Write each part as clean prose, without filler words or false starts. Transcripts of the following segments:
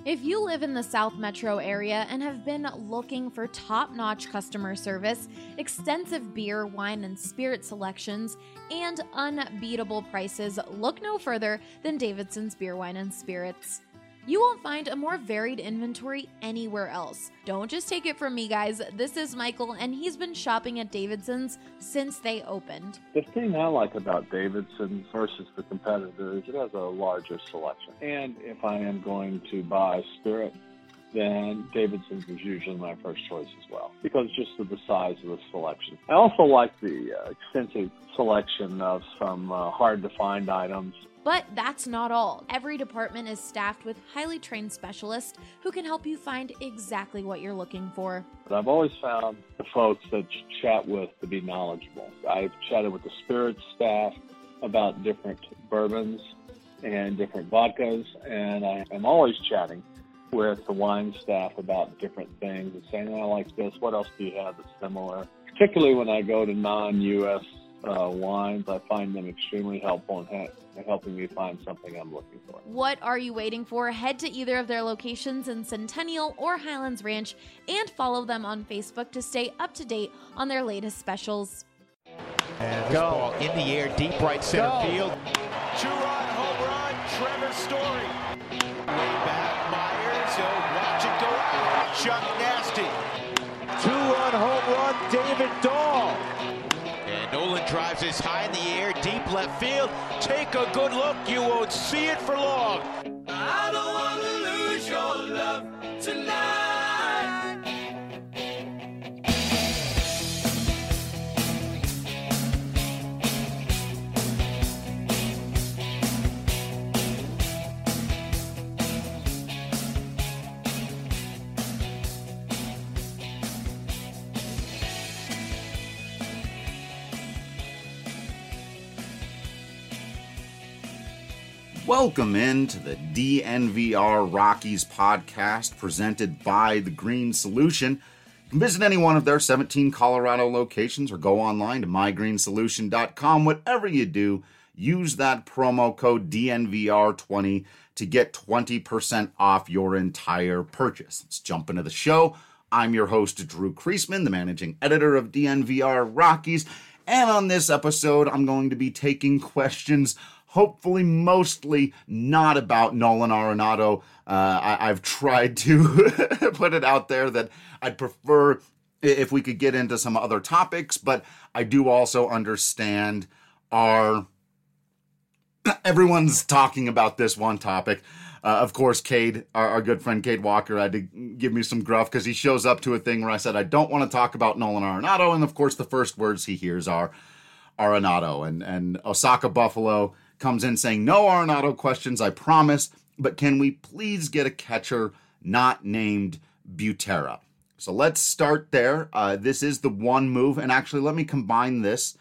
If you live in the South Metro area and have been looking for top-notch customer service, extensive beer, wine, and spirit selections, and unbeatable prices, look no further than Davidson's Beer, Wine, and Spirits. You won't find a more varied inventory anywhere else. Don't just take it from me, guys. This is Michael, and he's been shopping at Davidson's since they opened. The thing I like about Davidson's versus the competitor is it has a larger selection. And if I am going to buy spirit, then Davidson's is usually my first choice as well, because just of the size of the selection. I also like the extensive selection of some hard-to-find items. But that's not all. Every department is staffed with highly trained specialists who can help you find exactly what you're looking for. But I've always found the folks that you chat with to be knowledgeable. I've chatted with the spirits staff about different bourbons and different vodkas, and I am always chatting with the wine staff about different things and saying, I like this, what else do you have that's similar? Particularly when I go to non-U.S. wines, I find them extremely helpful in helping me find something I'm looking for. What are you waiting for? Head to either of their locations in Centennial or Highlands Ranch and follow them on Facebook to stay up to date on their latest specials. And this ball in the air, deep right center field. Two-run home run, Trevor Story. Way back, Myers, watch it go out. Chuck Nasty. Two-run home run, David Dahl. And Nolan drives this high in the air, deep left field. Take a good look, you won't see it for long. I don't want to lose your love tonight. Welcome into the DNVR Rockies podcast presented by The Green Solution. You can visit any one of their 17 Colorado locations or go online to mygreensolution.com. Whatever you do, use that promo code DNVR20 to get 20% off your entire purchase. Let's jump into the show. I'm your host, Drew Kreisman, the managing editor of DNVR Rockies. And on this episode, I'm going to be taking questions hopefully mostly not about Nolan Arenado. I've tried to put it out there that I'd prefer if we could get into some other topics, but I do also understand everyone's talking about this one topic. Of course, Cade, our good friend Cade Walker, had to give me some gruff because he shows up to a thing where I said I don't want to talk about Nolan Arenado, and of course the first words he hears are Arenado, and Osaka Buffalo comes in saying, no Arenado questions, I promise, but can we please get a catcher not named Butera? So let's start there. This is the one move, and actually let me combine this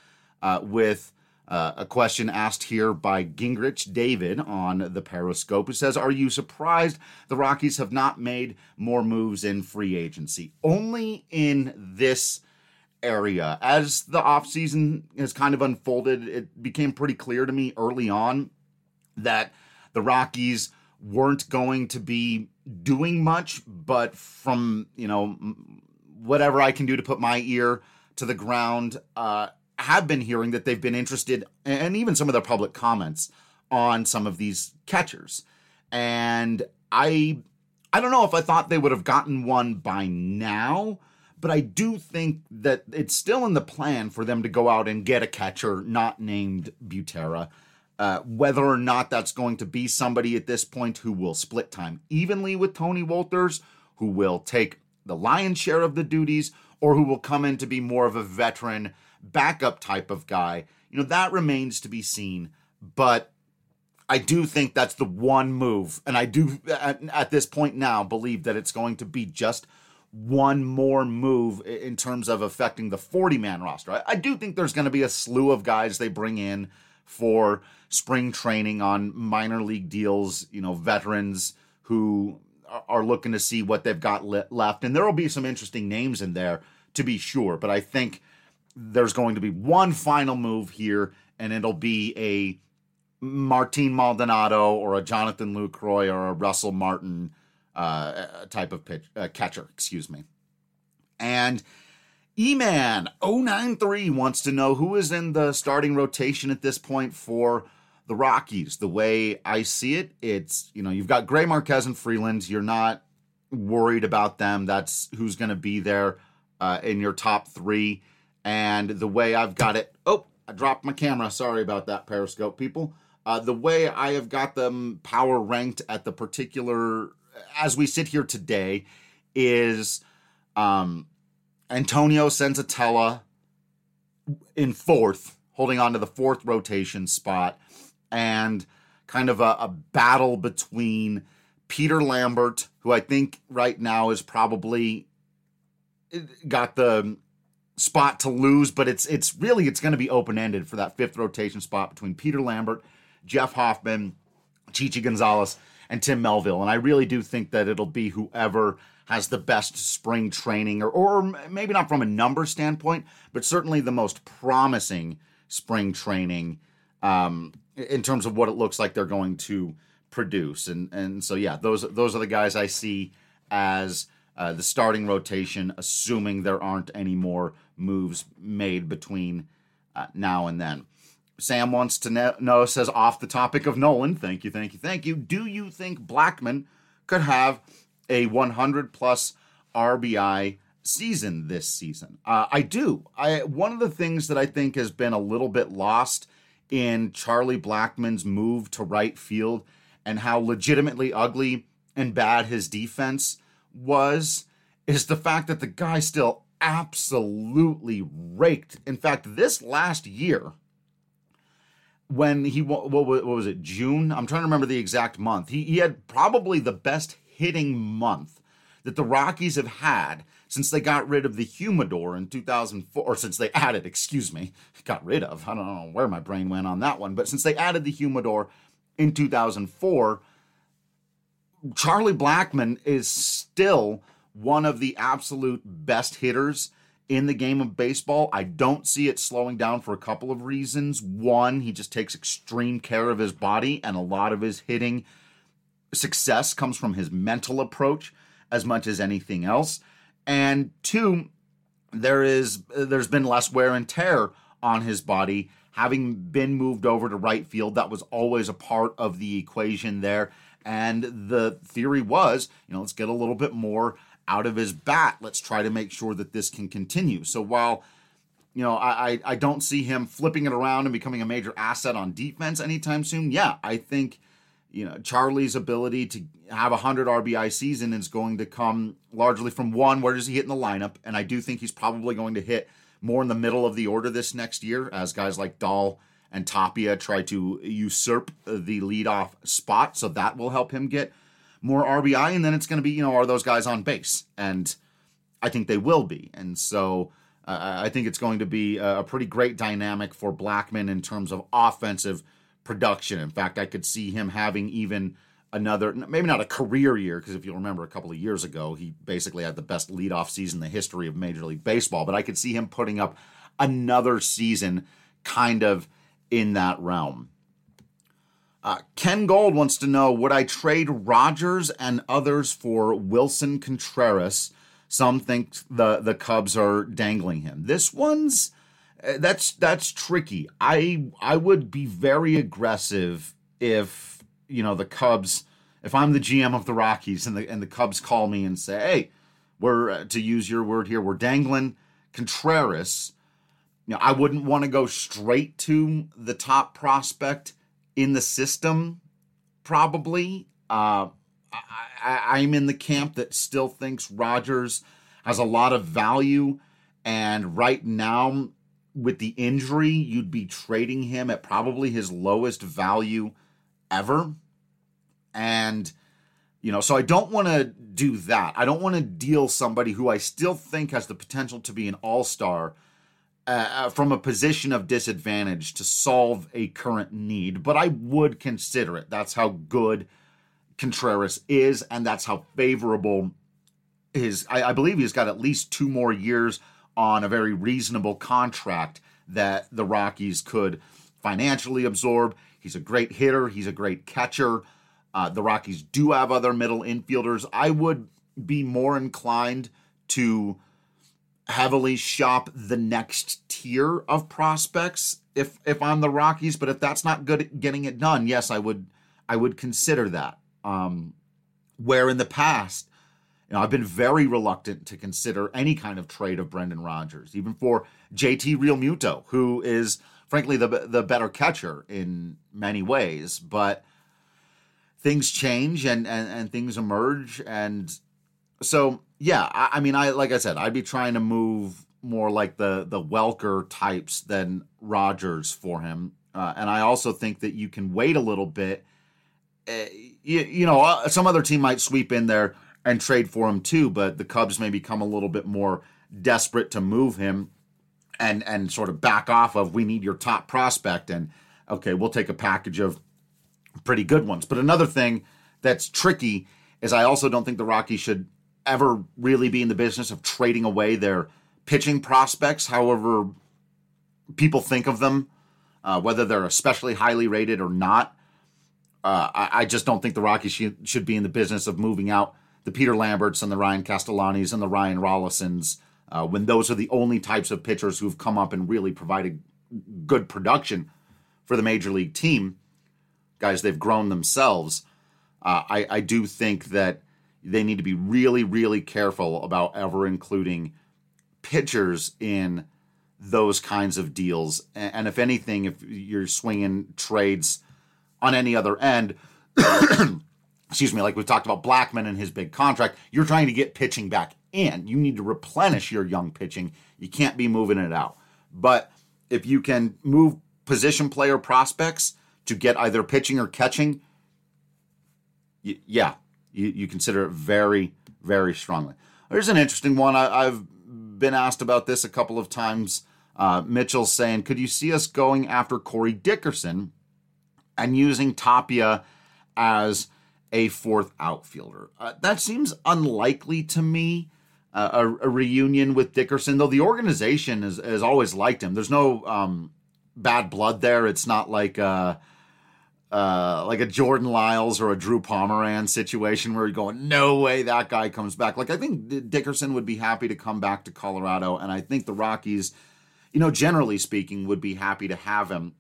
with a question asked here by Gingrich David on the Periscope, who says, are you surprised the Rockies have not made more moves in free agency? Only in this area. As the offseason has kind of unfolded, it became pretty clear to me early on that the Rockies weren't going to be doing much, but from, whatever I can do to put my ear to the ground, have been hearing that they've been interested, and even some of their public comments on some of these catchers. And I don't know if I thought they would have gotten one by now, but I do think that it's still in the plan for them to go out and get a catcher not named Butera. Whether or not that's going to be somebody at this point who will split time evenly with Tony Wolters, who will take the lion's share of the duties, or who will come in to be more of a veteran backup type of guy, that remains to be seen. But I do think that's the one move, and I do, at this point now, believe that it's going to be just one more move in terms of affecting the 40-man roster. I do think there's going to be a slew of guys they bring in for spring training on minor league deals, veterans who are looking to see what they've got left. And there will be some interesting names in there, to be sure. But I think there's going to be one final move here, and it'll be a Martin Maldonado or a Jonathan Lucroy or a Russell Martin type of catcher, excuse me. And E-Man 093 wants to know who is in the starting rotation at this point for the Rockies. The way I see it, it's, you've got Gray, Marquez, and Freeland. You're not worried about them. That's who's going to be there in your top three. And the way I've got it, I dropped my camera. Sorry about that, Periscope people. The way I have got them power ranked at the particular, as we sit here today, is Antonio Senzatella in fourth, holding on to the fourth rotation spot, and kind of a battle between Peter Lambert, who I think right now is probably got the spot to lose, but it's going to be open-ended for that fifth rotation spot between Peter Lambert, Jeff Hoffman, Chichi Gonzalez, and Tim Melville. And I really do think that it'll be whoever has the best spring training, or maybe not from a number standpoint, but certainly the most promising spring training in terms of what it looks like they're going to produce. And so, yeah, those are the guys I see as the starting rotation, assuming there aren't any more moves made between now and then. Sam wants to know, says, off the topic of Nolan, thank you. Do you think Blackmon could have a 100-plus RBI season this season? I do. One of the things that I think has been a little bit lost in Charlie Blackmon's move to right field and how legitimately ugly and bad his defense is the fact that the guy still absolutely raked. In fact, this last year, when what was it, June? I'm trying to remember the exact month. He had probably the best hitting month that the Rockies have had since they got rid of the humidor in 2004, or since they added, got rid of. I don't know where my brain went on that one, but since they added the humidor in 2004, Charlie Blackmon is still one of the absolute best hitters in the game of baseball. I don't see it slowing down for a couple of reasons. One, he just takes extreme care of his body, and a lot of his hitting success comes from his mental approach as much as anything else. And two, there's been less wear and tear on his body, having been moved over to right field. That was always a part of the equation there. And the theory was, let's get a little bit more out of his bat. Let's try to make sure that this can continue. So while, I don't see him flipping it around and becoming a major asset on defense anytime soon, yeah, I think, Charlie's ability to have a 100 RBI season is going to come largely from, one, where does he hit in the lineup? And I do think he's probably going to hit more in the middle of the order this next year as guys like Dahl and Tapia try to usurp the leadoff spot. So that will help him get more RBI. And then it's going to be, are those guys on base? And I think they will be. And so I think it's going to be a pretty great dynamic for Blackmon in terms of offensive production. In fact, I could see him having even another, maybe not a career year, because if you'll remember a couple of years ago, he basically had the best leadoff season in the history of Major League Baseball. But I could see him putting up another season kind of in that realm. Ken Gold wants to know, would I trade Rogers and others for Wilson Contreras? Some think the Cubs are dangling him. This one's that's tricky. I would be very aggressive if the Cubs, if I'm the GM of the Rockies and the Cubs call me and say, hey, we're, to use your word here, we're dangling Contreras. I wouldn't want to go straight to the top prospect in the system, probably. I'm in the camp that still thinks Rogers has a lot of value, and right now, with the injury, you'd be trading him at probably his lowest value ever. And, so I don't want to do that. I don't want to deal somebody who I still think has the potential to be an all-star from a position of disadvantage to solve a current need, but I would consider it. That's how good Contreras is, and that's how favorable I believe he's got at least 2 more years on a very reasonable contract that the Rockies could financially absorb. He's a great hitter. He's a great catcher. The Rockies do have other middle infielders. I would be more inclined to heavily shop the next tier of prospects if I'm the Rockies, but if that's not good at getting it done, yes, I would consider that. Where in the past, I've been very reluctant to consider any kind of trade of Brendan Rodgers, even for JT Realmuto, who is frankly the better catcher in many ways, but things change and things emerge. And so, yeah, I mean, like I said, I'd be trying to move more like the Welker types than Rodgers for him. And I also think that you can wait a little bit. Some other team might sweep in there and trade for him too, but the Cubs may become a little bit more desperate to move him and sort of back off of, we need your top prospect, and okay, we'll take a package of pretty good ones. But another thing that's tricky is I also don't think the Rockies should ever really be in the business of trading away their pitching prospects, however people think of them, whether they're especially highly rated or not. I just don't think the Rockies should be in the business of moving out the Peter Lamberts and the Ryan Castellanis and the Ryan Rollisons, when those are the only types of pitchers who've come up and really provided good production for the major league team. Guys, they've grown themselves. I do think that they need to be really, really careful about ever including pitchers in those kinds of deals. And if anything, if you're swinging trades on any other end, excuse me, like we talked about Blackmon and his big contract, you're trying to get pitching back in. You need to replenish your young pitching. You can't be moving it out. But if you can move position player prospects to get either pitching or catching, you consider it very, very strongly. There's an interesting one. I've been asked about this a couple of times. Mitchell's saying, could you see us going after Corey Dickerson and using Tapia as a fourth outfielder? That seems unlikely to me, a reunion with Dickerson, though the organization has always liked him. There's no bad blood there. It's not like a Jordan Lyles or a Drew Pomeranz situation where you're going, no way that guy comes back. Like, I think Dickerson would be happy to come back to Colorado, and I think the Rockies, generally speaking, would be happy to have him.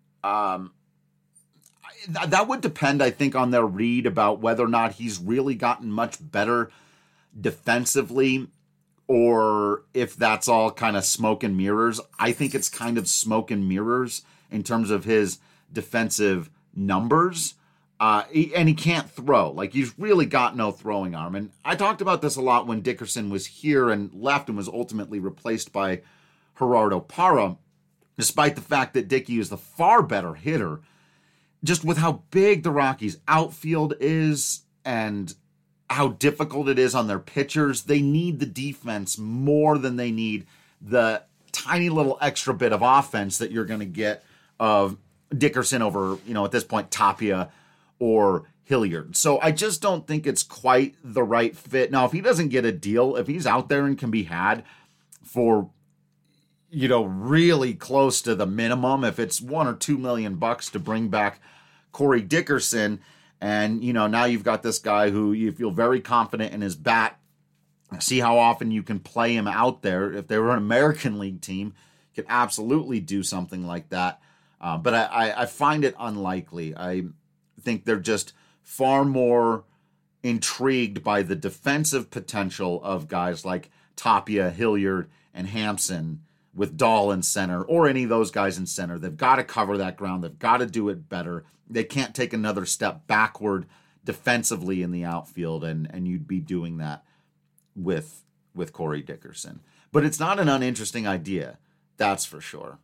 That would depend, I think, on their read about whether or not he's really gotten much better defensively, or if that's all kind of smoke and mirrors. I think it's kind of smoke and mirrors in terms of his defensive numbers. And he can't throw. Like, he's really got no throwing arm. And I talked about this a lot when Dickerson was here and left and was ultimately replaced by Gerardo Parra, despite the fact that Dickey is the far better hitter. Just with how big the Rockies' outfield is and how difficult it is on their pitchers, they need the defense more than they need the tiny little extra bit of offense that you're going to get of Dickerson over, at this point, Tapia or Hilliard. So I just don't think it's quite the right fit. Now, if he doesn't get a deal, if he's out there and can be had for, really close to the minimum, if it's $1 or $2 million to bring back Corey Dickerson, and, now you've got this guy who you feel very confident in his bat, see how often you can play him out there. If they were an American League team, you could absolutely do something like that. But I find it unlikely. I think they're just far more intrigued by the defensive potential of guys like Tapia, Hilliard, and Hampson with Dahl in center, or any of those guys in center. They've got to cover that ground. They've got to do it better. They can't take another step backward defensively in the outfield, and you'd be doing that with Corey Dickerson. But it's not an uninteresting idea, that's for sure.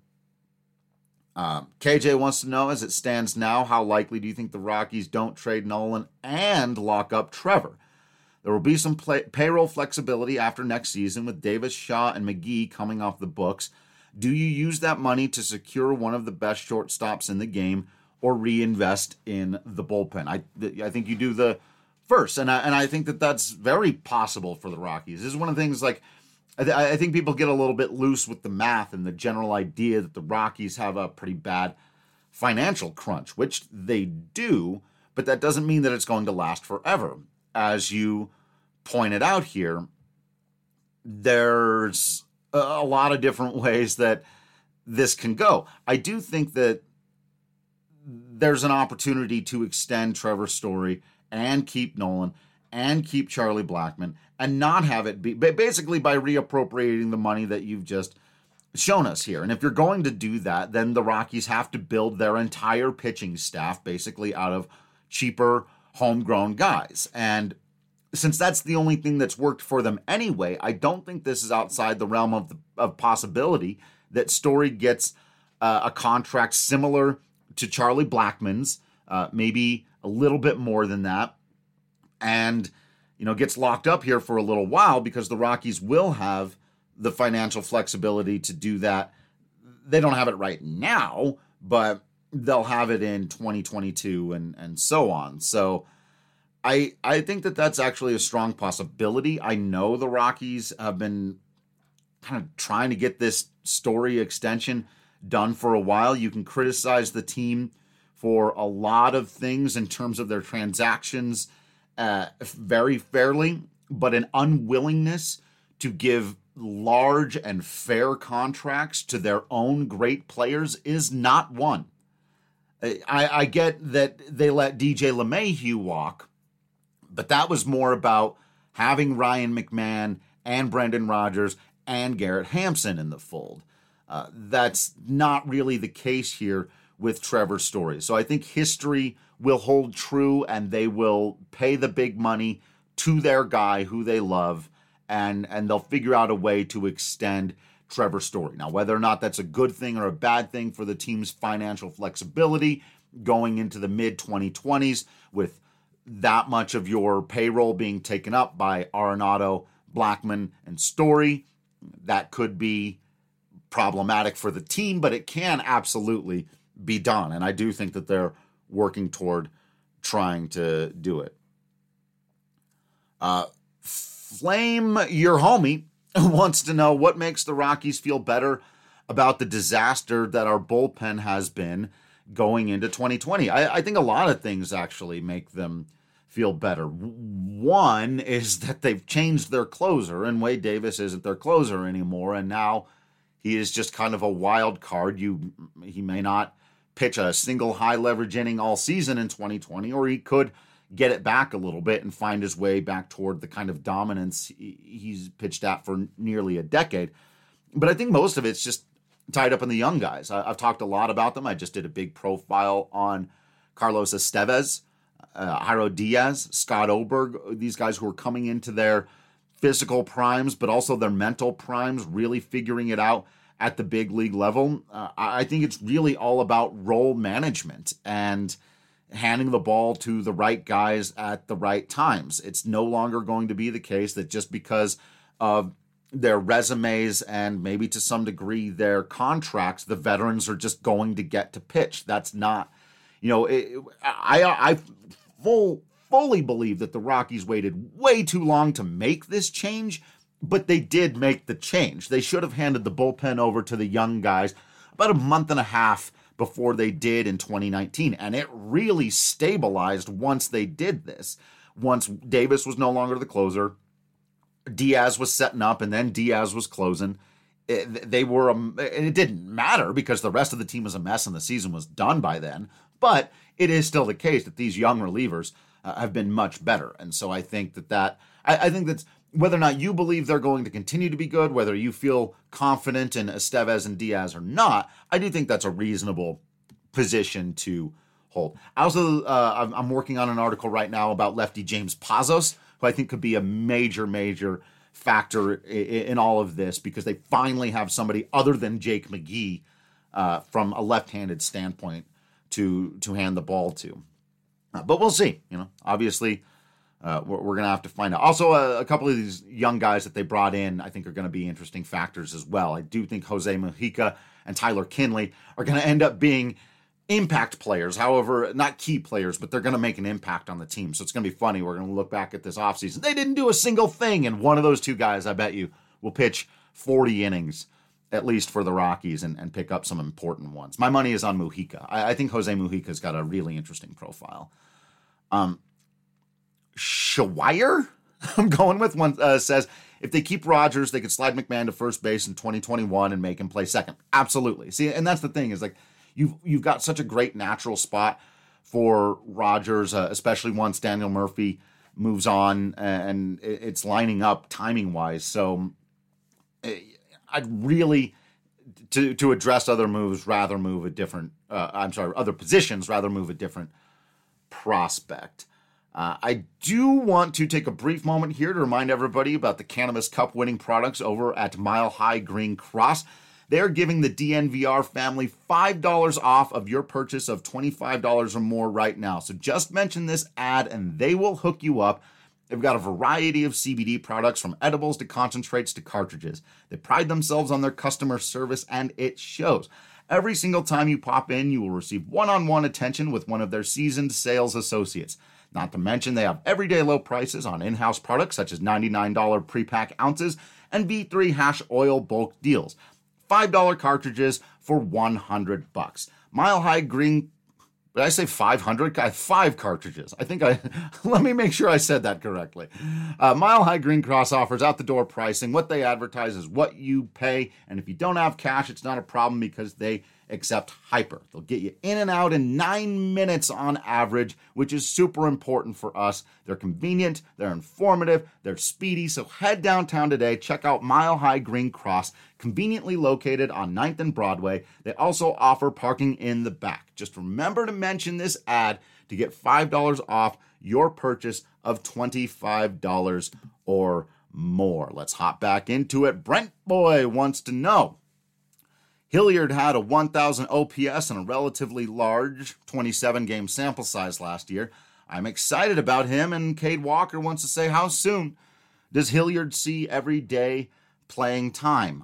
KJ wants to know, as it stands now, how likely do you think the Rockies don't trade Nolan and lock up Trevor? There will be some payroll flexibility after next season with Davis, Shaw, and McGee coming off the books. Do you use that money to secure one of the best shortstops in the game or reinvest in the bullpen? I think you do the first, and I think that's very possible for the Rockies. This is one of the things, like, I think people get a little bit loose with the math and the general idea that the Rockies have a pretty bad financial crunch, which they do, but that doesn't mean that it's going to last forever. As you pointed out here, there's a lot of different ways that this can go. I do think that there's an opportunity to extend Trevor Story and keep Nolan and keep Charlie Blackmon and not have it be basically by reappropriating the money that you've just shown us here. And if you're going to do that, then the Rockies have to build their entire pitching staff basically out of cheaper homegrown guys. And since that's the only thing that's worked for them anyway, I don't think this is outside the realm of possibility that Story gets a contract similar to Charlie Blackmon's, maybe a little bit more than that, and gets locked up here for a little while because the Rockies will have the financial flexibility to do that. They don't have it right now, but they'll have it in 2022 and so on. So I think that that's actually a strong possibility. I know the Rockies have been kind of trying to get this Story extension done for a while. You can criticize the team for a lot of things in terms of their transactions very fairly, but an unwillingness to give large and fair contracts to their own great players is not one. I get that they let DJ LeMahieu walk, but that was more about having Ryan McMahon and Brendan Rodgers and Garrett Hampson in the fold. That's not really the case here with Trevor Story. So I think history will hold true, and they will pay the big money to their guy who they love, and they'll figure out a way to extend Trevor Story. Now, whether or not that's a good thing or a bad thing for the team's financial flexibility going into the mid-2020s with that much of your payroll being taken up by Arenado, Blackmon, and Story, that could be problematic for the team, but it can absolutely be done. And I do think that they're working toward trying to do it. Flame Your Homie wants to know what makes the Rockies feel better about the disaster that our bullpen has been going into 2020. I think a lot of things actually make them feel better. One is that they've changed their closer, and Wade Davis isn't their closer anymore, and now he is just kind of a wild card. He may not pitch a single high leverage inning all season in 2020, or he could get it back a little bit and find his way back toward the kind of dominance he's pitched at for nearly a decade. But I think most of it's just tied up in the young guys. I've talked a lot about them. I just did a big profile on Carlos Estevez, Jairo Diaz, Scott Oberg, these guys who are coming into their physical primes, but also their mental primes, really figuring it out at the big league level. I think it's really all about role management and handing the ball to the right guys at the right times. It's no longer going to be the case that just because of their resumes and maybe to some degree their contracts, the veterans are just going to get to pitch. That's not, I fully believe that the Rockies waited way too long to make this change, but they did make the change. They should have handed the bullpen over to the young guys about a month and a half before they did in 2019. And it really stabilized once they did this. Once Davis was no longer the closer, Diaz was setting up, and then Diaz was closing. They were, and it didn't matter because the rest of the team was a mess and the season was done by then. But it is still the case that these young relievers have been much better. And so I think I think that's, whether or not you believe they're going to continue to be good, whether you feel confident in Estevez and Diaz or not, I do think that's a reasonable position to hold. I also, I'm working on an article right now about lefty James Pazos, who I think could be a major factor in all of this because they finally have somebody other than Jake McGee from a left-handed standpoint to hand the ball to. But we'll see. Obviously, we're going to have to find out. Also, a couple of these young guys that they brought in, I think, are going to be interesting factors as well. I do think Jose Mujica and Tyler Kinley are going to end up being impact players. However, not key players, but they're going to make an impact on the team. So it's going to be funny. We're going to look back at this offseason. They didn't do a single thing, and one of those two guys, I bet you, will pitch 40 innings, at least for the Rockies, and pick up some important ones. My money is on Mujica. I think Jose Mujica's got a really interesting profile. Schweier, I'm going with one, says, if they keep Rodgers, they could slide McMahon to first base in 2021 and make him play second. Absolutely. See, and that's the thing is like you've got such a great natural spot for Rodgers, especially once Daniel Murphy moves on and it's lining up timing wise. So I'd really, to address other moves, rather move a different, other positions, rather move a different prospect. I do want to take a brief moment here to remind everybody about the Cannabis Cup winning products over at Mile High Green Cross. They're giving the DNVR family $5 off of your purchase of $25 or more right now. So just mention this ad and they will hook you up. They've got a variety of CBD products from edibles to concentrates to cartridges. They pride themselves on their customer service and it shows. Every single time you pop in, you will receive one-on-one attention with one of their seasoned sales associates. Not to mention they have everyday low prices on in-house products such as $99 pre-pack ounces and V3 hash oil bulk deals. $5 cartridges for $100. Mile High Green, did I say 500? 5 cartridges. Let me make sure I said that correctly. Mile High Green Cross offers out the door pricing. What they advertise is what you pay. And if you don't have cash, it's not a problem because they accept Hyper. They'll get you in and out in 9 minutes on average, which is super important for us. They're convenient, they're informative, they're speedy. So head downtown today, check out Mile High Green Cross, conveniently located on 9th and Broadway. They also offer parking in the back. Just remember to mention this ad to get $5 off your purchase of $25 or more. Let's hop back into it. Brent Boy wants to know, Hilliard had a 1,000 OPS and a relatively large 27-game sample size last year. I'm excited about him, and Cade Walker wants to say, how soon does Hilliard see everyday playing time?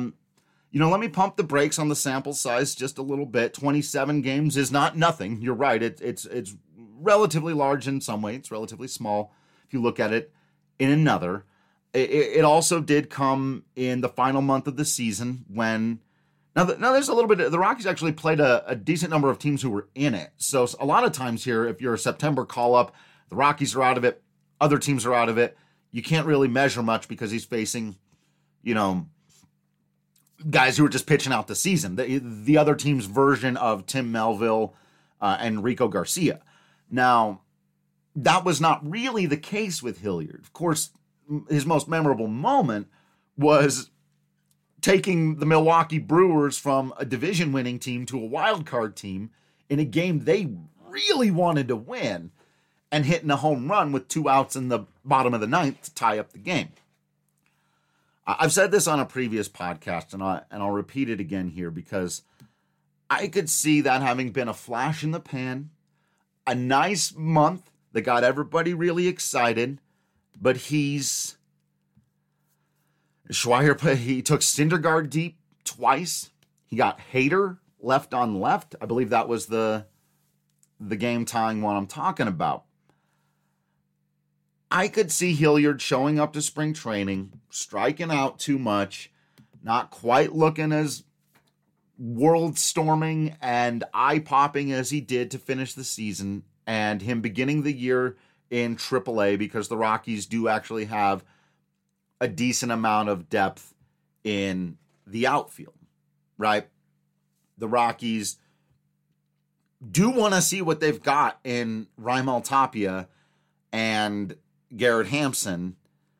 Let me pump the brakes on the sample size just a little bit. 27 games is not nothing. You're right. It's relatively large in some way. It's relatively small if you look at it in another. It also did come in the final month of the season when... Now, there's a little bit. The Rockies actually played a decent number of teams who were in it. So a lot of times here, if you're a September call-up, the Rockies are out of it. Other teams are out of it. You can't really measure much because he's facing, guys who are just pitching out the season. The other team's version of Tim Melville and Rico Garcia. Now, that was not really the case with Hilliard. Of course, his most memorable moment was taking the Milwaukee Brewers from a division-winning team to a wild card team in a game they really wanted to win and hitting a home run with 2 outs in the bottom of the 9th to tie up the game. I've said this on a previous podcast, and I'll repeat it again here because I could see that having been a flash in the pan, a nice month that got everybody really excited, but Schweier, he took Syndergaard deep twice. He got Hader left on left. I believe that was the game-tying one I'm talking about. I could see Hilliard showing up to spring training, striking out too much, not quite looking as world-storming and eye-popping as he did to finish the season, and him beginning the year in AAA because the Rockies do actually have a decent amount of depth in the outfield, right? The Rockies do want to see what they've got in Raimel Tapia and Garrett Hampson,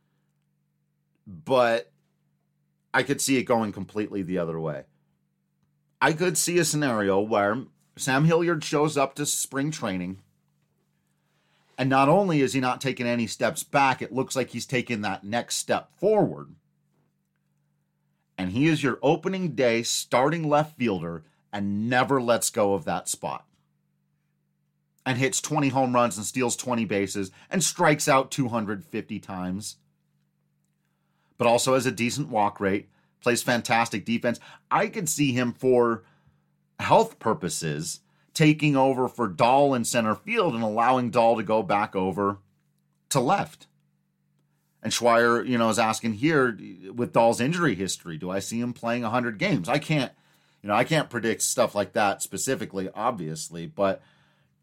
but I could see it going completely the other way. I could see a scenario where Sam Hilliard shows up to spring training, and not only is he not taking any steps back, it looks like he's taking that next step forward. And he is your opening day starting left fielder and never lets go of that spot. And hits 20 home runs and steals 20 bases and strikes out 250 times. But also has a decent walk rate, plays fantastic defense. I could see him for health purposes taking over for Dahl in center field and allowing Dahl to go back over to left. And Schweier, is asking here with Dahl's injury history, do I see him playing 100 games? I can't predict stuff like that specifically, obviously, but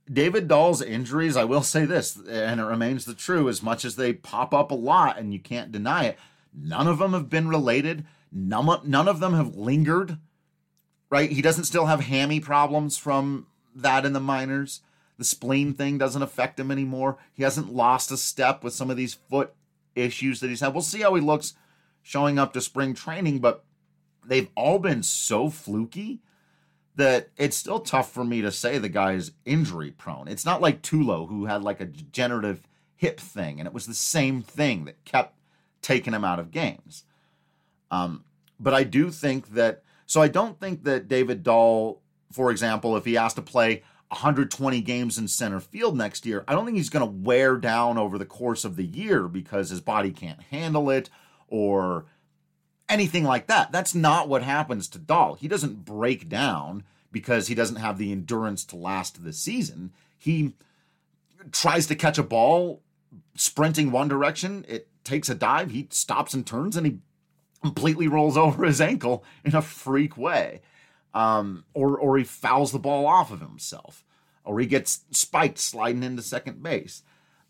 David Dahl's injuries, I will say this, and it remains the true, as much as they pop up a lot and you can't deny it, none of them have been related. None of them have lingered, right? He doesn't still have hammy problems from that in the minors. The spleen thing doesn't affect him anymore. He hasn't lost a step with some of these foot issues that he's had. We'll see how he looks showing up to spring training, but they've all been so fluky that it's still tough for me to say the guy's injury prone. It's not like Tulo, who had like a degenerative hip thing, and it was the same thing that kept taking him out of games. But I do think that, so I don't think that David Dahl, for example, if he has to play 120 games in center field next year, I don't think he's going to wear down over the course of the year because his body can't handle it or anything like that. That's not what happens to Dahl. He doesn't break down because he doesn't have the endurance to last the season. He tries to catch a ball sprinting one direction. It takes a dive. He stops and turns, and he completely rolls over his ankle in a freak way. Or he fouls the ball off of himself, or he gets spiked sliding into second base.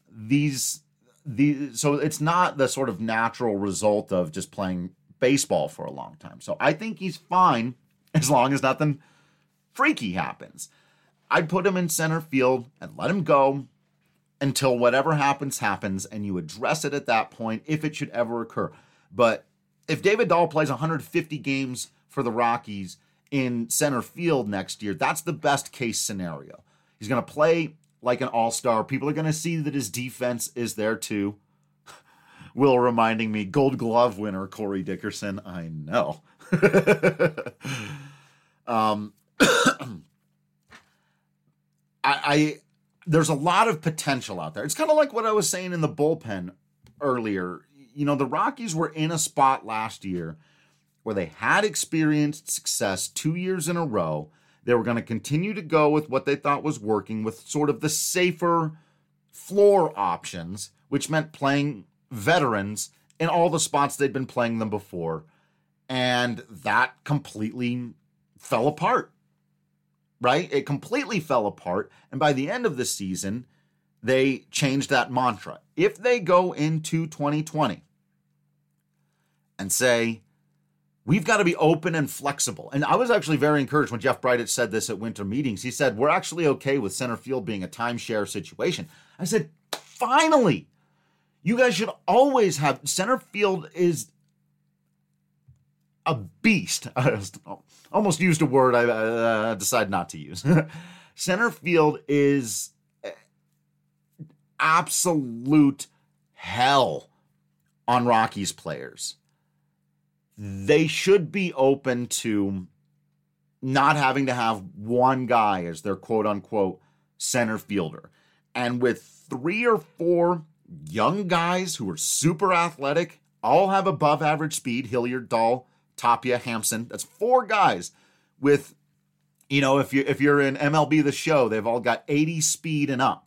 So it's not the sort of natural result of just playing baseball for a long time. So I think he's fine as long as nothing freaky happens. I'd put him in center field and let him go until whatever happens, and you address it at that point if it should ever occur. But if David Dahl plays 150 games for the Rockies in center field next year, that's the best case scenario. He's going to play like an all-star. People are going to see that his defense is there too. Will reminding me, Gold Glove winner Corey Dickerson. I know. There's a lot of potential out there. It's kind of like what I was saying in the bullpen earlier. You know, the Rockies were in a spot last year where they had experienced success 2 years in a row. They were going to continue to go with what they thought was working, with sort of the safer floor options, which meant playing veterans in all the spots they'd been playing them before. And that completely fell apart, right? It completely fell apart. And by the end of the season, they changed that mantra. If they go into 2020 and say, we've got to be open and flexible. And I was actually very encouraged when Jeff Bridich said this at winter meetings. He said, we're actually okay with center field being a timeshare situation. I said, finally, you guys should always have, center field is a beast. I almost used a word I decided not to use. Center field is absolute hell on Rockies players. They should be open to not having to have one guy as their quote-unquote center fielder. And with 3 or 4 young guys who are super athletic, all have above average speed, Hilliard, Dahl, Tapia, Hampson. That's 4 guys with, you know, if you're in MLB The Show, they've all got 80 speed and up.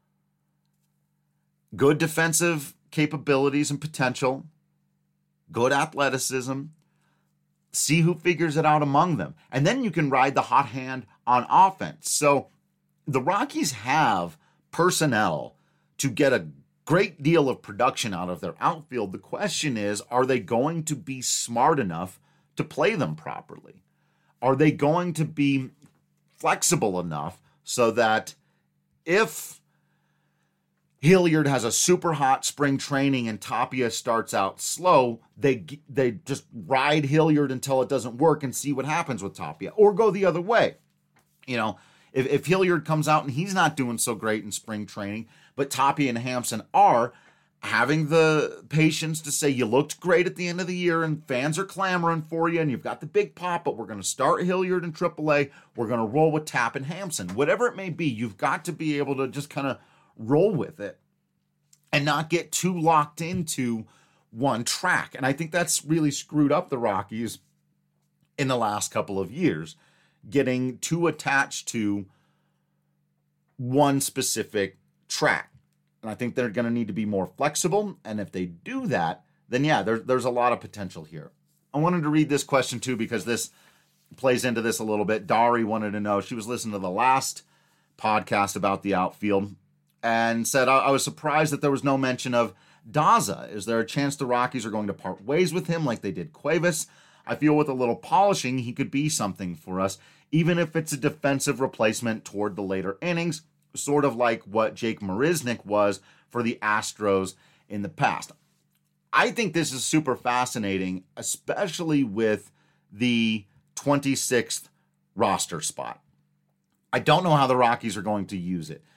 Good defensive capabilities and potential. Good athleticism. See who figures it out among them. And then you can ride the hot hand on offense. So the Rockies have personnel to get a great deal of production out of their outfield. The question is, are they going to be smart enough to play them properly? Are they going to be flexible enough so that if Hilliard has a super hot spring training and Tapia starts out slow, they just ride Hilliard until it doesn't work and see what happens with Tapia, or go the other way? You know, if Hilliard comes out and he's not doing so great in spring training, but Tapia and Hampson are, having the patience to say, you looked great at the end of the year and fans are clamoring for you and you've got the big pop, but we're going to start Hilliard in AAA. We're going to roll with Tap and Hampson. Whatever it may be, you've got to be able to just kind of roll with it and not get too locked into one track. And I think that's really screwed up the Rockies in the last couple of years, getting too attached to one specific track. And I think they're going to need to be more flexible. And if they do that, then yeah, there's a lot of potential here. I wanted to read this question too, because this plays into this a little bit. Dari wanted to know, she was listening to the last podcast about the outfield and said I was surprised that there was no mention of Daza. Is there a chance the Rockies are going to part ways with him like they did Cuevas? I feel with a little polishing, he could be something for us, even if it's a defensive replacement toward the later innings, sort of like what Jake Marisnick was for the Astros in the past. I think this is super fascinating, especially with the 26th roster spot. I don't know how the Rockies are going to use it.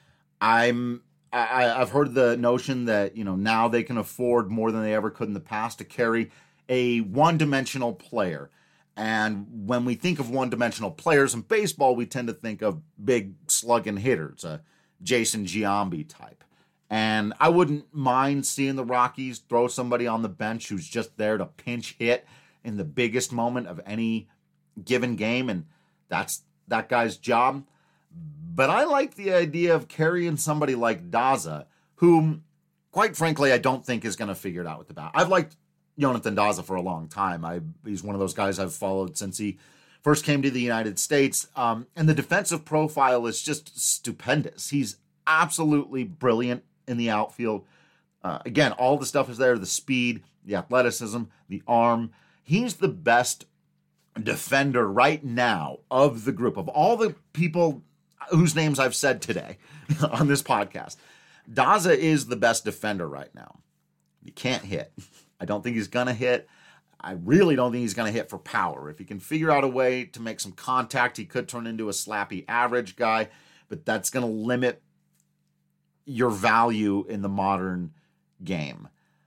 I've heard the notion that, now they can afford more than they ever could in the past to carry a one-dimensional player. And when we think of one-dimensional players in baseball, we tend to think of big slugging hitters, a Jason Giambi type. And I wouldn't mind seeing the Rockies throw somebody on the bench who's just there to pinch hit in the biggest moment of any given game, and that's that guy's job. But I like the idea of carrying somebody like Daza, whom, quite frankly, I don't think is going to figure it out with the bat. I've liked Jonathan Daza for a long time. He's one of those guys I've followed since he first came to the United States. And the defensive profile is just stupendous. He's absolutely brilliant in the outfield. Again, all the stuff is there, the speed, the athleticism, the arm. He's the best defender right now of the group. Of all the people whose names I've said today on this podcast, Daza is the best defender right now. He can't hit. I don't think he's going to hit. I really don't think he's going to hit for power. If he can figure out a way to make some contact, he could turn into a slappy average guy, but that's going to limit your value in the modern game.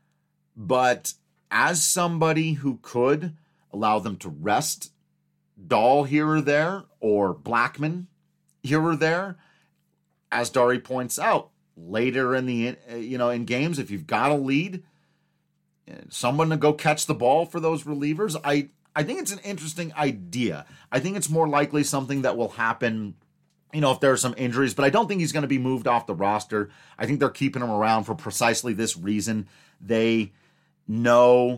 But as somebody who could allow them to rest Dahl here or there, or Blackman here or there, as Dari points out, later in the in games, if you've got a lead, someone to go catch the ball for those relievers. I think it's an interesting idea. I think it's more likely something that will happen, if there are some injuries, but I don't think he's going to be moved off the roster. I think they're keeping him around for precisely this reason. They know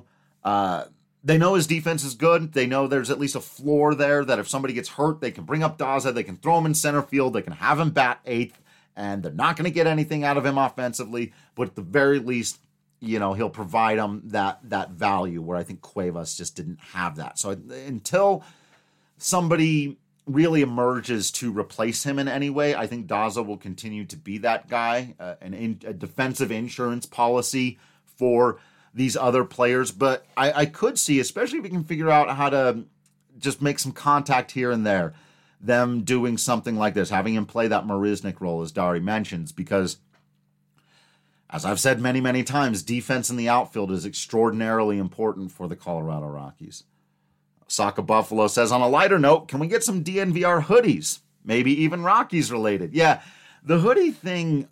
his defense is good. They know there's at least a floor there that if somebody gets hurt, they can bring up Daza, they can throw him in center field, they can have him bat eighth, and they're not going to get anything out of him offensively, but at the very least, he'll provide them that value where I think Cuevas just didn't have that. So until somebody really emerges to replace him in any way, I think Daza will continue to be that guy, a defensive insurance policy for these other players. But I could see, especially if we can figure out how to just make some contact here and there, them doing something like this, having him play that Marisnick role, as Dari mentions, because as I've said many, many times, defense in the outfield is extraordinarily important for the Colorado Rockies. Saka Buffalo says, on a lighter note, can we get some DNVR hoodies? Maybe even Rockies related. Yeah, the hoodie thing,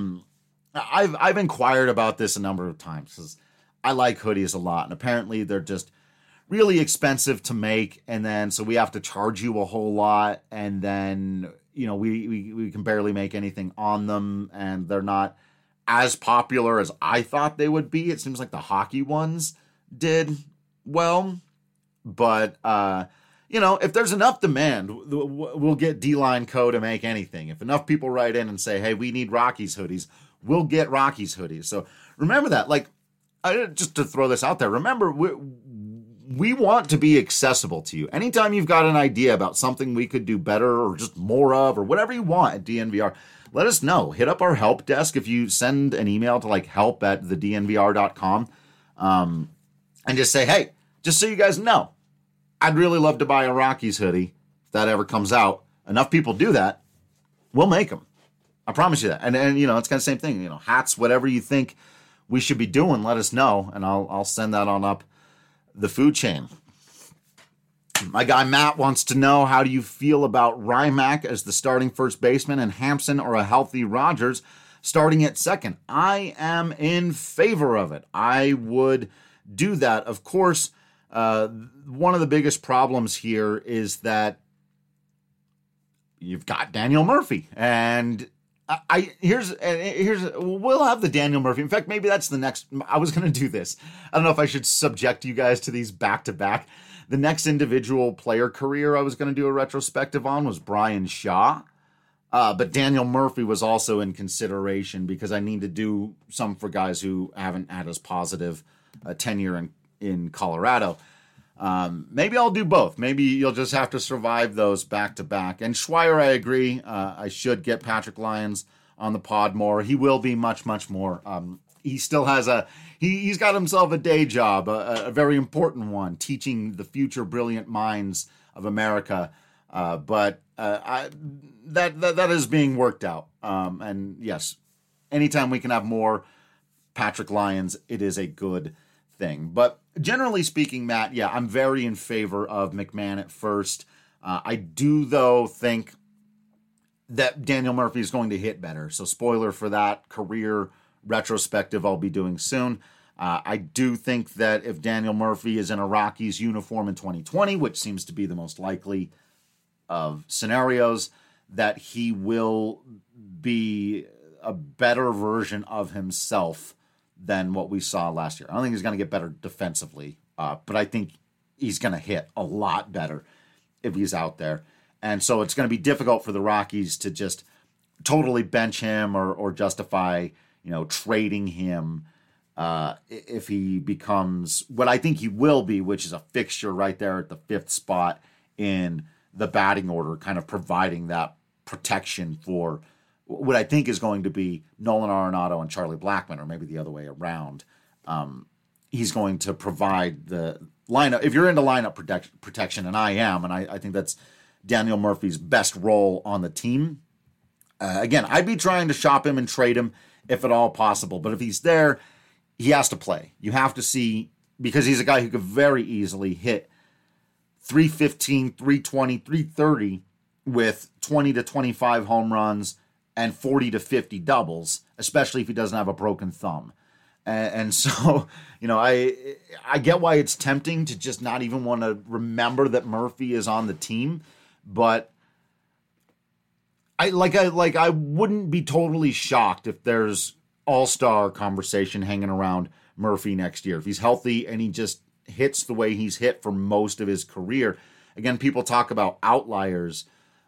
I've inquired about this a number of times because I like hoodies a lot, and apparently they're just really expensive to make, and then so we have to charge you a whole lot, and then we can barely make anything on them, and they're not as popular as I thought they would be. It seems like the hockey ones did well, but if there's enough demand, we'll get D-Line Co. to make anything. If enough people write in and say, hey, we need Rockies hoodies, we'll get Rockies hoodies. So remember that. Just to throw this out there, remember, we want to be accessible to you. Anytime you've got an idea about something we could do better or just more of or whatever you want at DNVR, let us know. Hit up our help desk if you send an email to help@thednvr.com and just say, hey, just so you guys know, I'd really love to buy a Rockies hoodie if that ever comes out. Enough people do that, we'll make them. I promise you that. And it's kind of the same thing. Hats, whatever you think we should be doing, let us know, and I'll send that on up the food chain. My guy Matt wants to know, how do you feel about Rymack as the starting first baseman and Hampson or a healthy Rogers starting at second? I am in favor of it. I would do that. Of course, one of the biggest problems here is that you've got Daniel Murphy, and here's we'll have the Daniel Murphy. In fact, maybe that's the next. I was going to do this. I don't know if I should subject you guys to these back to back. The next individual player career I was going to do a retrospective on was Brian Shaw. But Daniel Murphy was also in consideration because I need to do some for guys who haven't had as positive a tenure in Colorado. Maybe I'll do both. Maybe you'll just have to survive those back to back. And Schweier, I agree. I should get Patrick Lyons on the pod more. He will be much, much more. He still has he's got himself a day job, a very important one, teaching the future brilliant minds of America. But that is being worked out. And yes, anytime we can have more Patrick Lyons, it is a good thing. But generally speaking, Matt, yeah, I'm very in favor of McMahon at first. I do, though, think that Daniel Murphy is going to hit better. So spoiler for that career retrospective I'll be doing soon. I do think that if Daniel Murphy is in a Rockies uniform in 2020, which seems to be the most likely of scenarios, that he will be a better version of himself than what we saw last year. I don't think he's going to get better defensively, but I think he's going to hit a lot better if he's out there. And so it's going to be difficult for the Rockies to just totally bench him or justify, trading him if he becomes what I think he will be, which is a fixture right there at the 5th spot in the batting order, kind of providing that protection for what I think is going to be Nolan Arenado and Charlie Blackmon, or maybe the other way around. He's going to provide the lineup. If you're into lineup protection, and I am, and I think that's Daniel Murphy's best role on the team. Again, I'd be trying to shop him and trade him if at all possible. But if he's there, he has to play. You have to see, because he's a guy who could very easily hit 315, 320, 330 with 20 to 25 home runs and 40 to 50 doubles, especially if he doesn't have a broken thumb. And so, I get why it's tempting to just not even want to remember that Murphy is on the team, but I wouldn't be totally shocked if there's all-star conversation hanging around Murphy next year. If he's healthy and he just hits the way he's hit for most of his career. Again, people talk about outliers.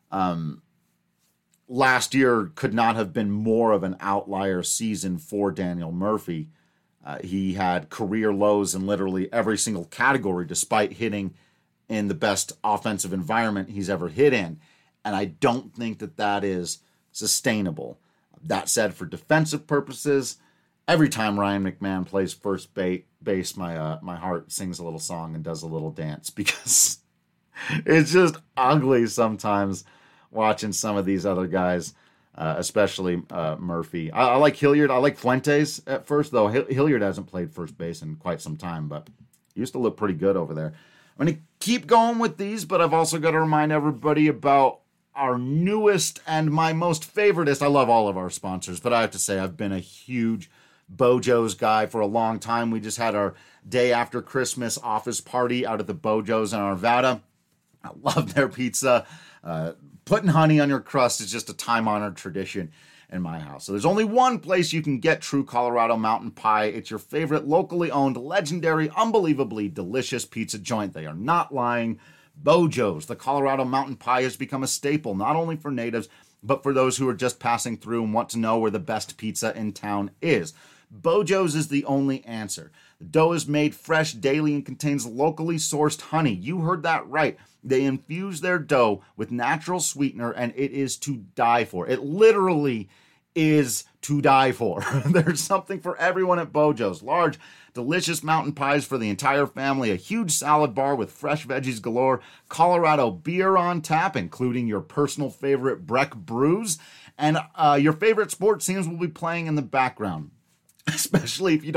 Last year could not have been more of an outlier season for Daniel Murphy. He had career lows in literally every single category, despite hitting in the best offensive environment he's ever hit in. And I don't think that is sustainable. That said, for defensive purposes, every time Ryan McMahon plays first base, my heart sings a little song and does a little dance, because it's just ugly sometimes watching some of these other guys, especially Murphy. I like Hilliard. I like Fuentes at first, though. Hilliard hasn't played first base in quite some time, but he used to look pretty good over there. I'm going to keep going with these, but I've also got to remind everybody about our newest and my most favoritist. I love all of our sponsors, but I have to say I've been a huge Bojo's guy for a long time. We just had our day after Christmas office party out at the Bojo's in Arvada. I love their pizza. Putting honey on your crust is just a time-honored tradition in my house. So there's only one place you can get true Colorado mountain pie. It's your favorite locally owned, legendary, unbelievably delicious pizza joint. They are not lying. Bojo's, the Colorado mountain pie, has become a staple, not only for natives, but for those who are just passing through and want to know where the best pizza in town is. Bojo's is the only answer. The dough is made fresh daily and contains locally sourced honey. You heard that right. They infuse their dough with natural sweetener, and it is to die for. It literally is to die for. There's something for everyone at Bojo's. Large, delicious mountain pies for the entire family, a huge salad bar with fresh veggies galore, Colorado beer on tap, including your personal favorite Breck brews, and your favorite sports teams will be playing in the background, especially if you're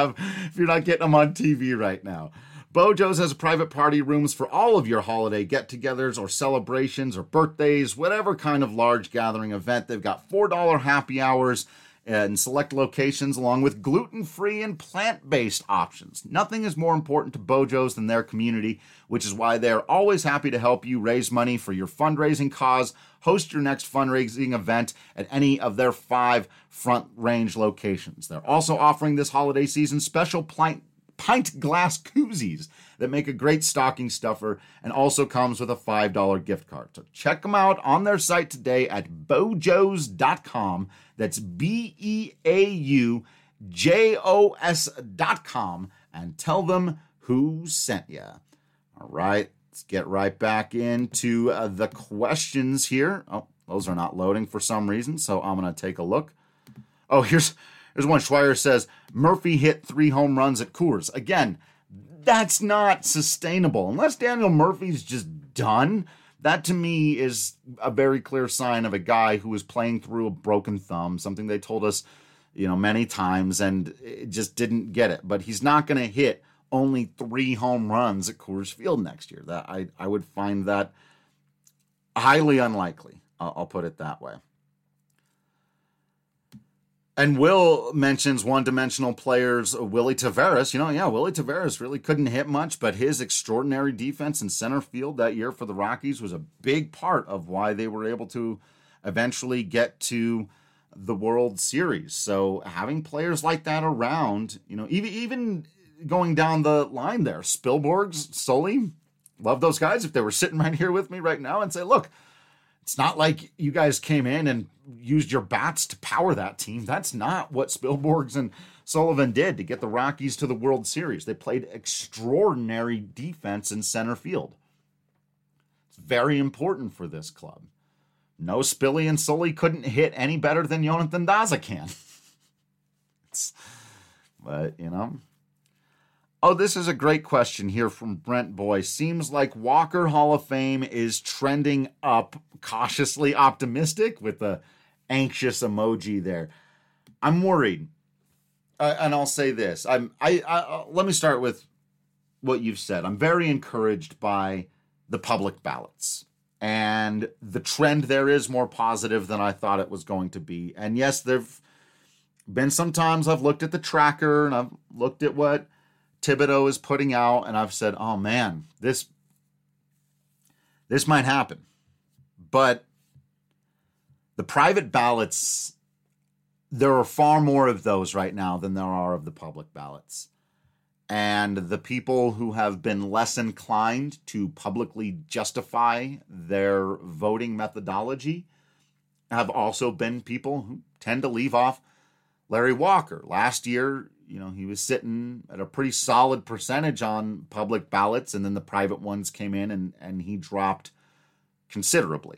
not getting them on TV right now. Bojo's has private party rooms for all of your holiday get-togethers or celebrations or birthdays, whatever kind of large gathering event. They've got $4 happy hours in select locations, along with gluten-free and plant-based options. Nothing is more important to Bojo's than their community, which is why they're always happy to help you raise money for your fundraising cause. Host your next fundraising event at any of their 5 Front Range locations. They're also offering this holiday season special pint glass koozies that make a great stocking stuffer and also comes with a $5 gift card. So check them out on their site today at bojos.com. That's BEAUJOS.com, and tell them who sent you. All right, let's get right back into the questions here. Oh, those are not loading for some reason, so I'm going to take a look. Oh, here's one. Schweier says, Murphy hit 3 home runs at Coors. Again, that's not sustainable. Unless Daniel Murphy's just done, that to me is a very clear sign of a guy who is playing through a broken thumb, something they told us, many times, and it just didn't get it. But he's not going to hit only 3 home runs at Coors Field next year. That I would find that highly unlikely. I'll put it that way. And Will mentions one-dimensional players, Willy Taveras. Willy Taveras really couldn't hit much, but his extraordinary defense in center field that year for the Rockies was a big part of why they were able to eventually get to the World Series. So having players like that around, even going down the line there, Spilborghs, Sully, love those guys. If they were sitting right here with me right now and say, look, it's not like you guys came in and used your bats to power that team. That's not what Spilborghs and Sullivan did to get the Rockies to the World Series. They played extraordinary defense in center field. It's very important for this club. No, Spilly and Sully couldn't hit any better than Jonathan Daza can. But, Oh, this is a great question here from Brent Boy. Seems like Walker Hall of Fame is trending up, cautiously optimistic with the anxious emoji there. I'm worried. And I'll say this. Let me start with what you've said. I'm very encouraged by the public ballots. And the trend there is more positive than I thought it was going to be. And yes, there've been some times I've looked at the tracker and I've looked at what Thibodeau is putting out, and I've said, oh man, this might happen. But the private ballots, there are far more of those right now than there are of the public ballots. And the people who have been less inclined to publicly justify their voting methodology have also been people who tend to leave off Larry Walker. Last year, he was sitting at a pretty solid percentage on public ballots, and then the private ones came in and he dropped considerably.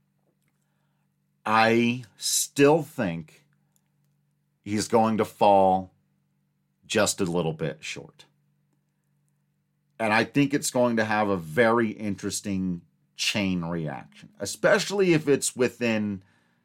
I still think he's going to fall just a little bit short. And I think it's going to have a very interesting chain reaction, especially if it's within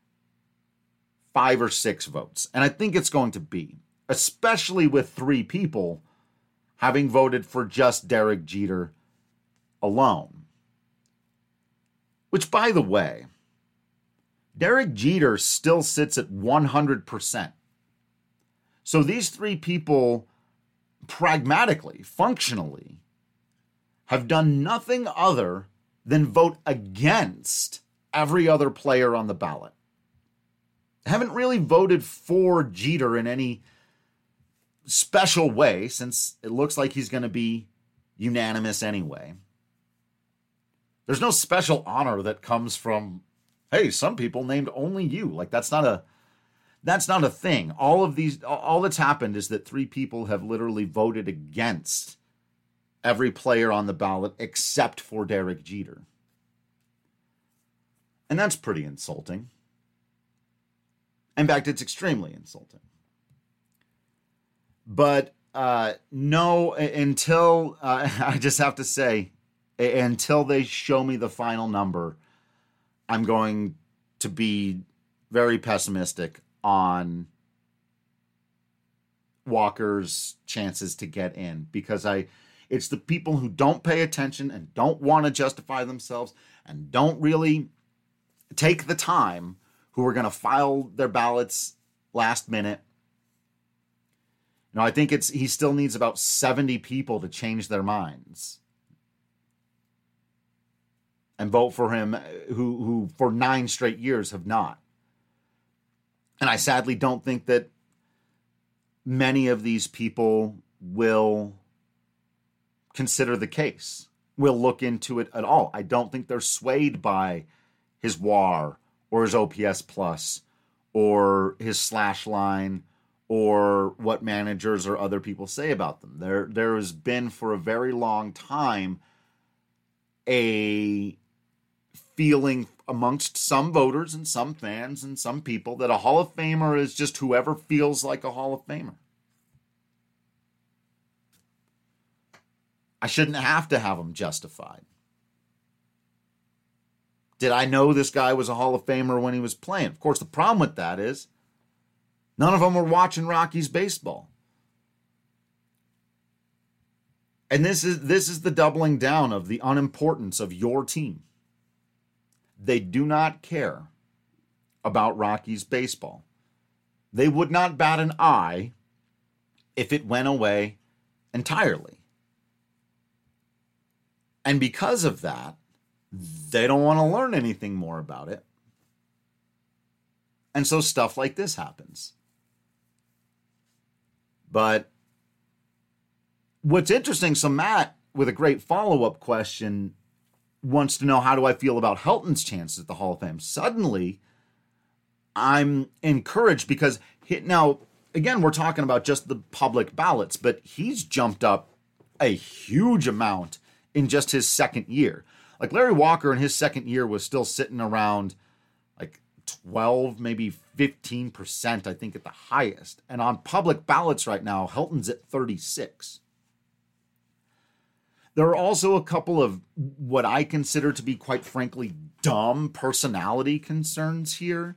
5 or 6 votes. And I think it's going to be, especially with 3 people having voted for just Derek Jeter alone. Which, by the way, Derek Jeter still sits at 100%. So these 3 people, pragmatically, functionally, have done nothing other than vote against every other player on the ballot. Haven't really voted for Jeter in any special way, since it looks like he's going to be unanimous anyway. There's no special honor that comes from, hey, some people named only you. Like, that's not a thing. All that's happened is that 3 people have literally voted against every player on the ballot except for Derek Jeter. And that's pretty insulting. In fact, it's extremely insulting. But no, until I just have to say, until they show me the final number, I'm going to be very pessimistic on Walker's chances to get in, because it's the people who don't pay attention and don't want to justify themselves and don't really take the time, who are going to file their ballots last minute. I think he still needs about 70 people to change their minds and vote for him, who for 9 straight years have not. And I sadly don't think that many of these people will consider the case, will look into it at all. I don't think they're swayed by his WAR or his OPS plus or his slash line or what managers or other people say about them. There has been for a very long time a feeling amongst some voters and some fans and some people that a Hall of Famer is just whoever feels like a Hall of Famer. I shouldn't have to have them justified. Did I know this guy was a Hall of Famer when he was playing? Of course, the problem with that is none of them were watching Rockies baseball. And this is the doubling down of the unimportance of your team. They do not care about Rockies baseball. They would not bat an eye if it went away entirely. And because of that, they don't want to learn anything more about it. And so stuff like this happens. But what's interesting, so Matt, with a great follow-up question, wants to know, how do I feel about Helton's chances at the Hall of Fame? Suddenly, I'm encouraged because now, again, we're talking about just the public ballots, but he's jumped up a huge amount in just his second year. Like Larry Walker in his second year was still sitting around like 12, maybe 15%, I think at the highest. And on public ballots right now, Helton's at 36. There are also a couple of what I consider to be, quite frankly, dumb personality concerns here.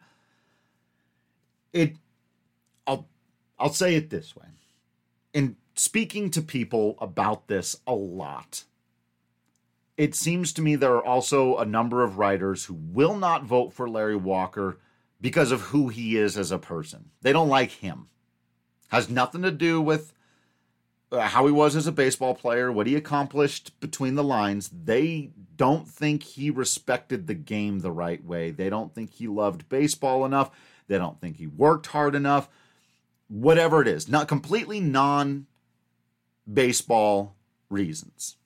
I'll say it this way. In speaking to people about this a lot, it seems to me there are also a number of writers who will not vote for Larry Walker because of who he is as a person. They don't like him. Has nothing to do with how he was as a baseball player, what he accomplished between the lines. They don't think he respected the game the right way. They don't think he loved baseball enough. They don't think he worked hard enough. Whatever it is, not completely non-baseball reasons.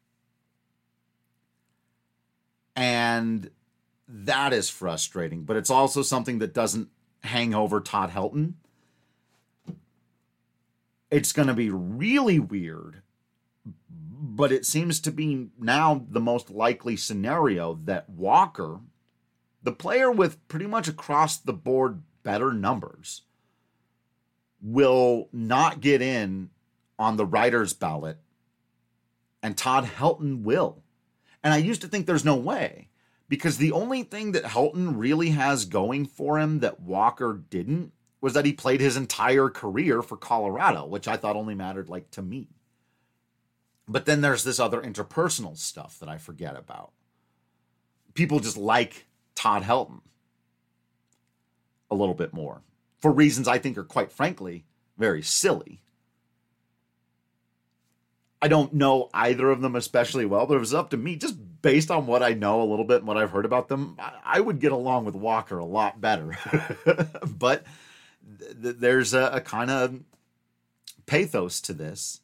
And that is frustrating, but it's also something that doesn't hang over Todd Helton. It's going to be really weird, but it seems to be now the most likely scenario that Walker, the player with pretty much across the board better numbers, will not get in on the writer's ballot, and Todd Helton will. And I used to think there's no way, because the only thing that Helton really has going for him that Walker didn't was that he played his entire career for Colorado, which I thought only mattered like to me. But then there's this other interpersonal stuff that I forget about. People just like Todd Helton a little bit more for reasons I think are, quite frankly, very silly. I don't know either of them especially well, but if it was up to me, just based on what I know a little bit and what I've heard about them, I would get along with Walker a lot better. But there's a kind of pathos to this.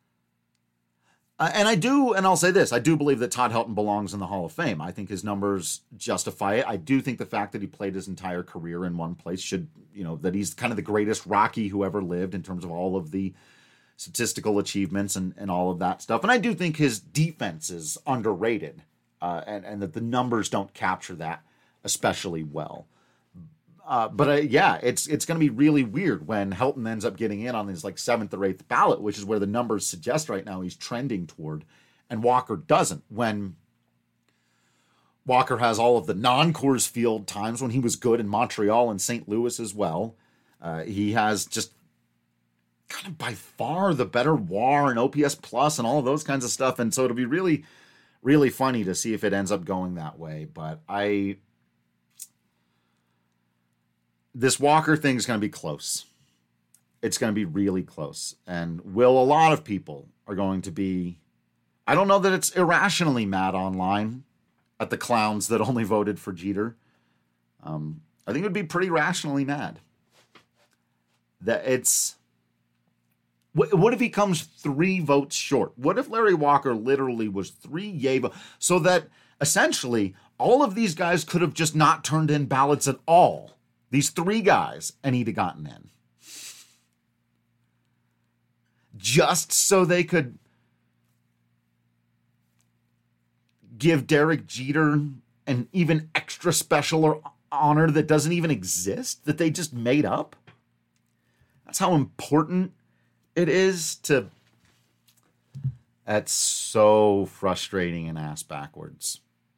And I'll say this, I do believe that Todd Helton belongs in the Hall of Fame. I think his numbers justify it. I do think the fact that he played his entire career in one place should, that he's kind of the greatest Rocky who ever lived in terms of all of the statistical achievements and all of that stuff. And I do think his defense is underrated, and that the numbers don't capture that especially well. But it's going to be really weird when Helton ends up getting in on his like 7th or 8th ballot, which is where the numbers suggest right now he's trending toward, and Walker doesn't. When Walker has all of the non-Coors Field times when he was good in Montreal and St. Louis as well, he has just kind of by far the better WAR and OPS plus and all of those kinds of stuff. And so it'll be really, really funny to see if it ends up going that way. But this Walker thing is going to be close. It's going to be really close. And a lot of people are going to be, I don't know that it's irrationally mad online at the clowns that only voted for Jeter. I think it would be pretty rationally mad. That What if he comes 3 votes short? What if Larry Walker literally was 3 yay votes? So that essentially all of these guys could have just not turned in ballots at all. These 3 guys, and he'd have gotten in. Just so they could give Derek Jeter an even extra special or honor that doesn't even exist, that they just made up. That's how important it is to... That's so frustrating and ass backwards.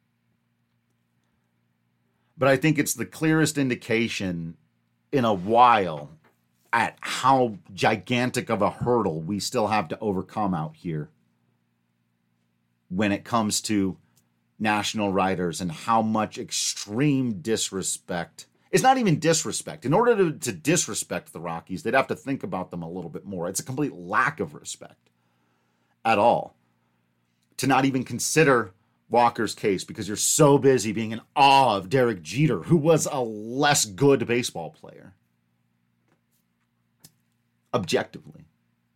But I think it's the clearest indication in a while at how gigantic of a hurdle we still have to overcome out here when it comes to national writers and how much extreme disrespect. It's not even disrespect. In order to disrespect the Rockies, they'd have to think about them a little bit more. It's a complete lack of respect at all to not even consider Walker's case because you're so busy being in awe of Derek Jeter, who was a less good baseball player. Objectively.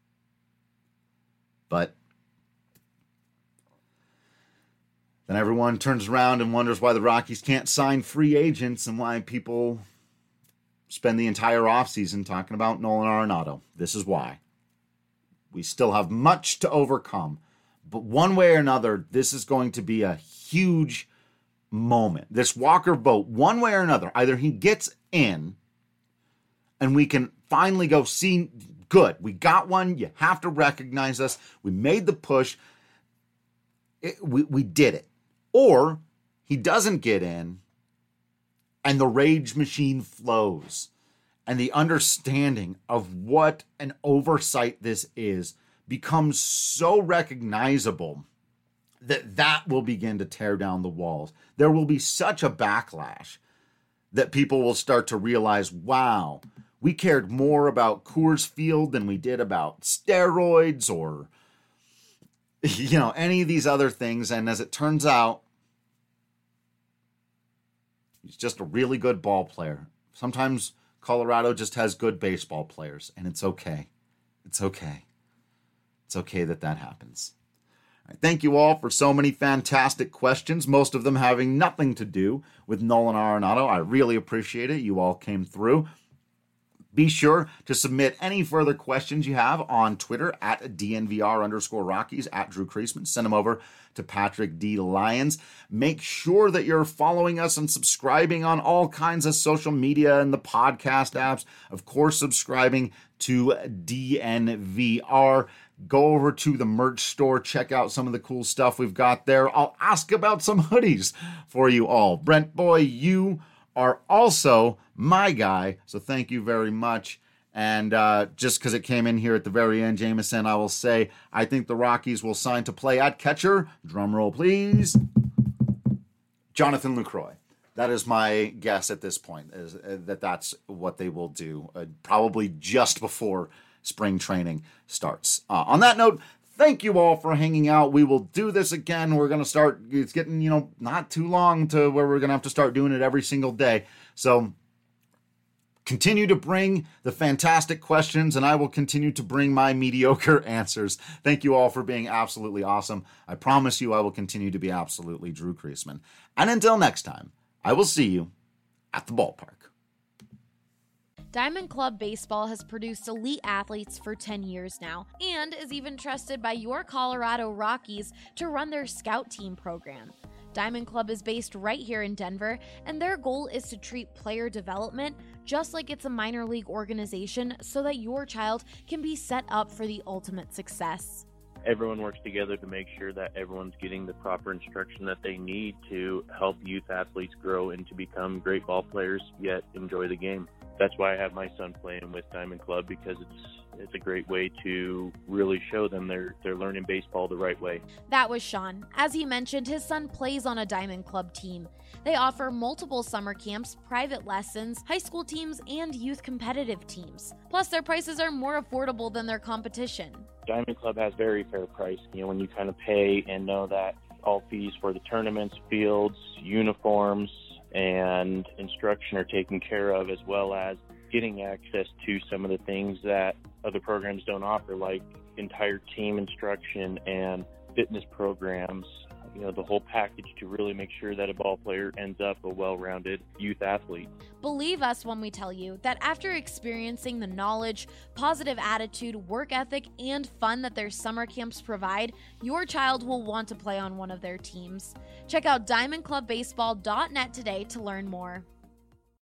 But then everyone turns around and wonders why the Rockies can't sign free agents and why people spend the entire offseason talking about Nolan Arenado. This is why. We still have much to overcome. But one way or another, this is going to be a huge moment. This Walker vote, one way or another, either he gets in and we can finally go, see, good, we got one. You have to recognize us. We made the push. We did it. Or he doesn't get in and the rage machine flows and the understanding of what an oversight this is becomes so recognizable that will begin to tear down the walls. There will be such a backlash that people will start to realize, wow, we cared more about Coors Field than we did about steroids or, any of these other things. And as it turns out, he's just a really good ball player. Sometimes Colorado just has good baseball players, and it's okay. It's okay. It's okay that happens. All right, thank you all for so many fantastic questions, most of them having nothing to do with Nolan Arenado. I really appreciate it. You all came through. Be sure to submit any further questions you have on Twitter at DNVR_Rockies, at Drew Creasman. Send them over to Patrick D. Lyons. Make sure that you're following us and subscribing on all kinds of social media and the podcast apps. Of course, subscribing to DNVR. Go over to the merch store. Check out some of the cool stuff we've got there. I'll ask about some hoodies for you all. Brent Boy, you are also my guy, so thank you very much. And just because it came in here at the very end, Jameson, I will say I think the Rockies will sign to play at catcher. Drum roll, please. Jonathan Lucroy. That is my guess at this point, is that's what they will do, probably just before spring training starts. On that note, thank you all for hanging out. We will do this again. We're going to start, it's getting, not too long to where we're going to have to start doing it every single day. So continue to bring the fantastic questions, and I will continue to bring my mediocre answers. Thank you all for being absolutely awesome. I promise you I will continue to be absolutely Drew Creasman. And until next time, I will see you at the ballpark. Diamond Club Baseball has produced elite athletes for 10 years now and is even trusted by your Colorado Rockies to run their scout team program. Diamond Club is based right here in Denver, and their goal is to treat player development just like it's a minor league organization so that your child can be set up for the ultimate success. Everyone works together to make sure that everyone's getting the proper instruction that they need to help youth athletes grow and to become great ball players, yet enjoy the game. That's why I have my son playing with Diamond Club, because it's a great way to really show them they're learning baseball the right way. That was Sean. As he mentioned, his son plays on a Diamond Club team. They offer multiple summer camps, private lessons, high school teams, and youth competitive teams. Plus, their prices are more affordable than their competition. Diamond Club has very fair price. When you kind of pay and know that all fees for the tournaments, fields, uniforms, and instruction are taken care of, as well as getting access to some of the things that other programs don't offer, like entire team instruction and fitness programs, the whole package to really make sure that a ball player ends up a well-rounded youth athlete. Believe us when we tell you that after experiencing the knowledge, positive attitude, work ethic, and fun that their summer camps provide, your child will want to play on one of their teams. Check out diamondclubbaseball.net today to learn more.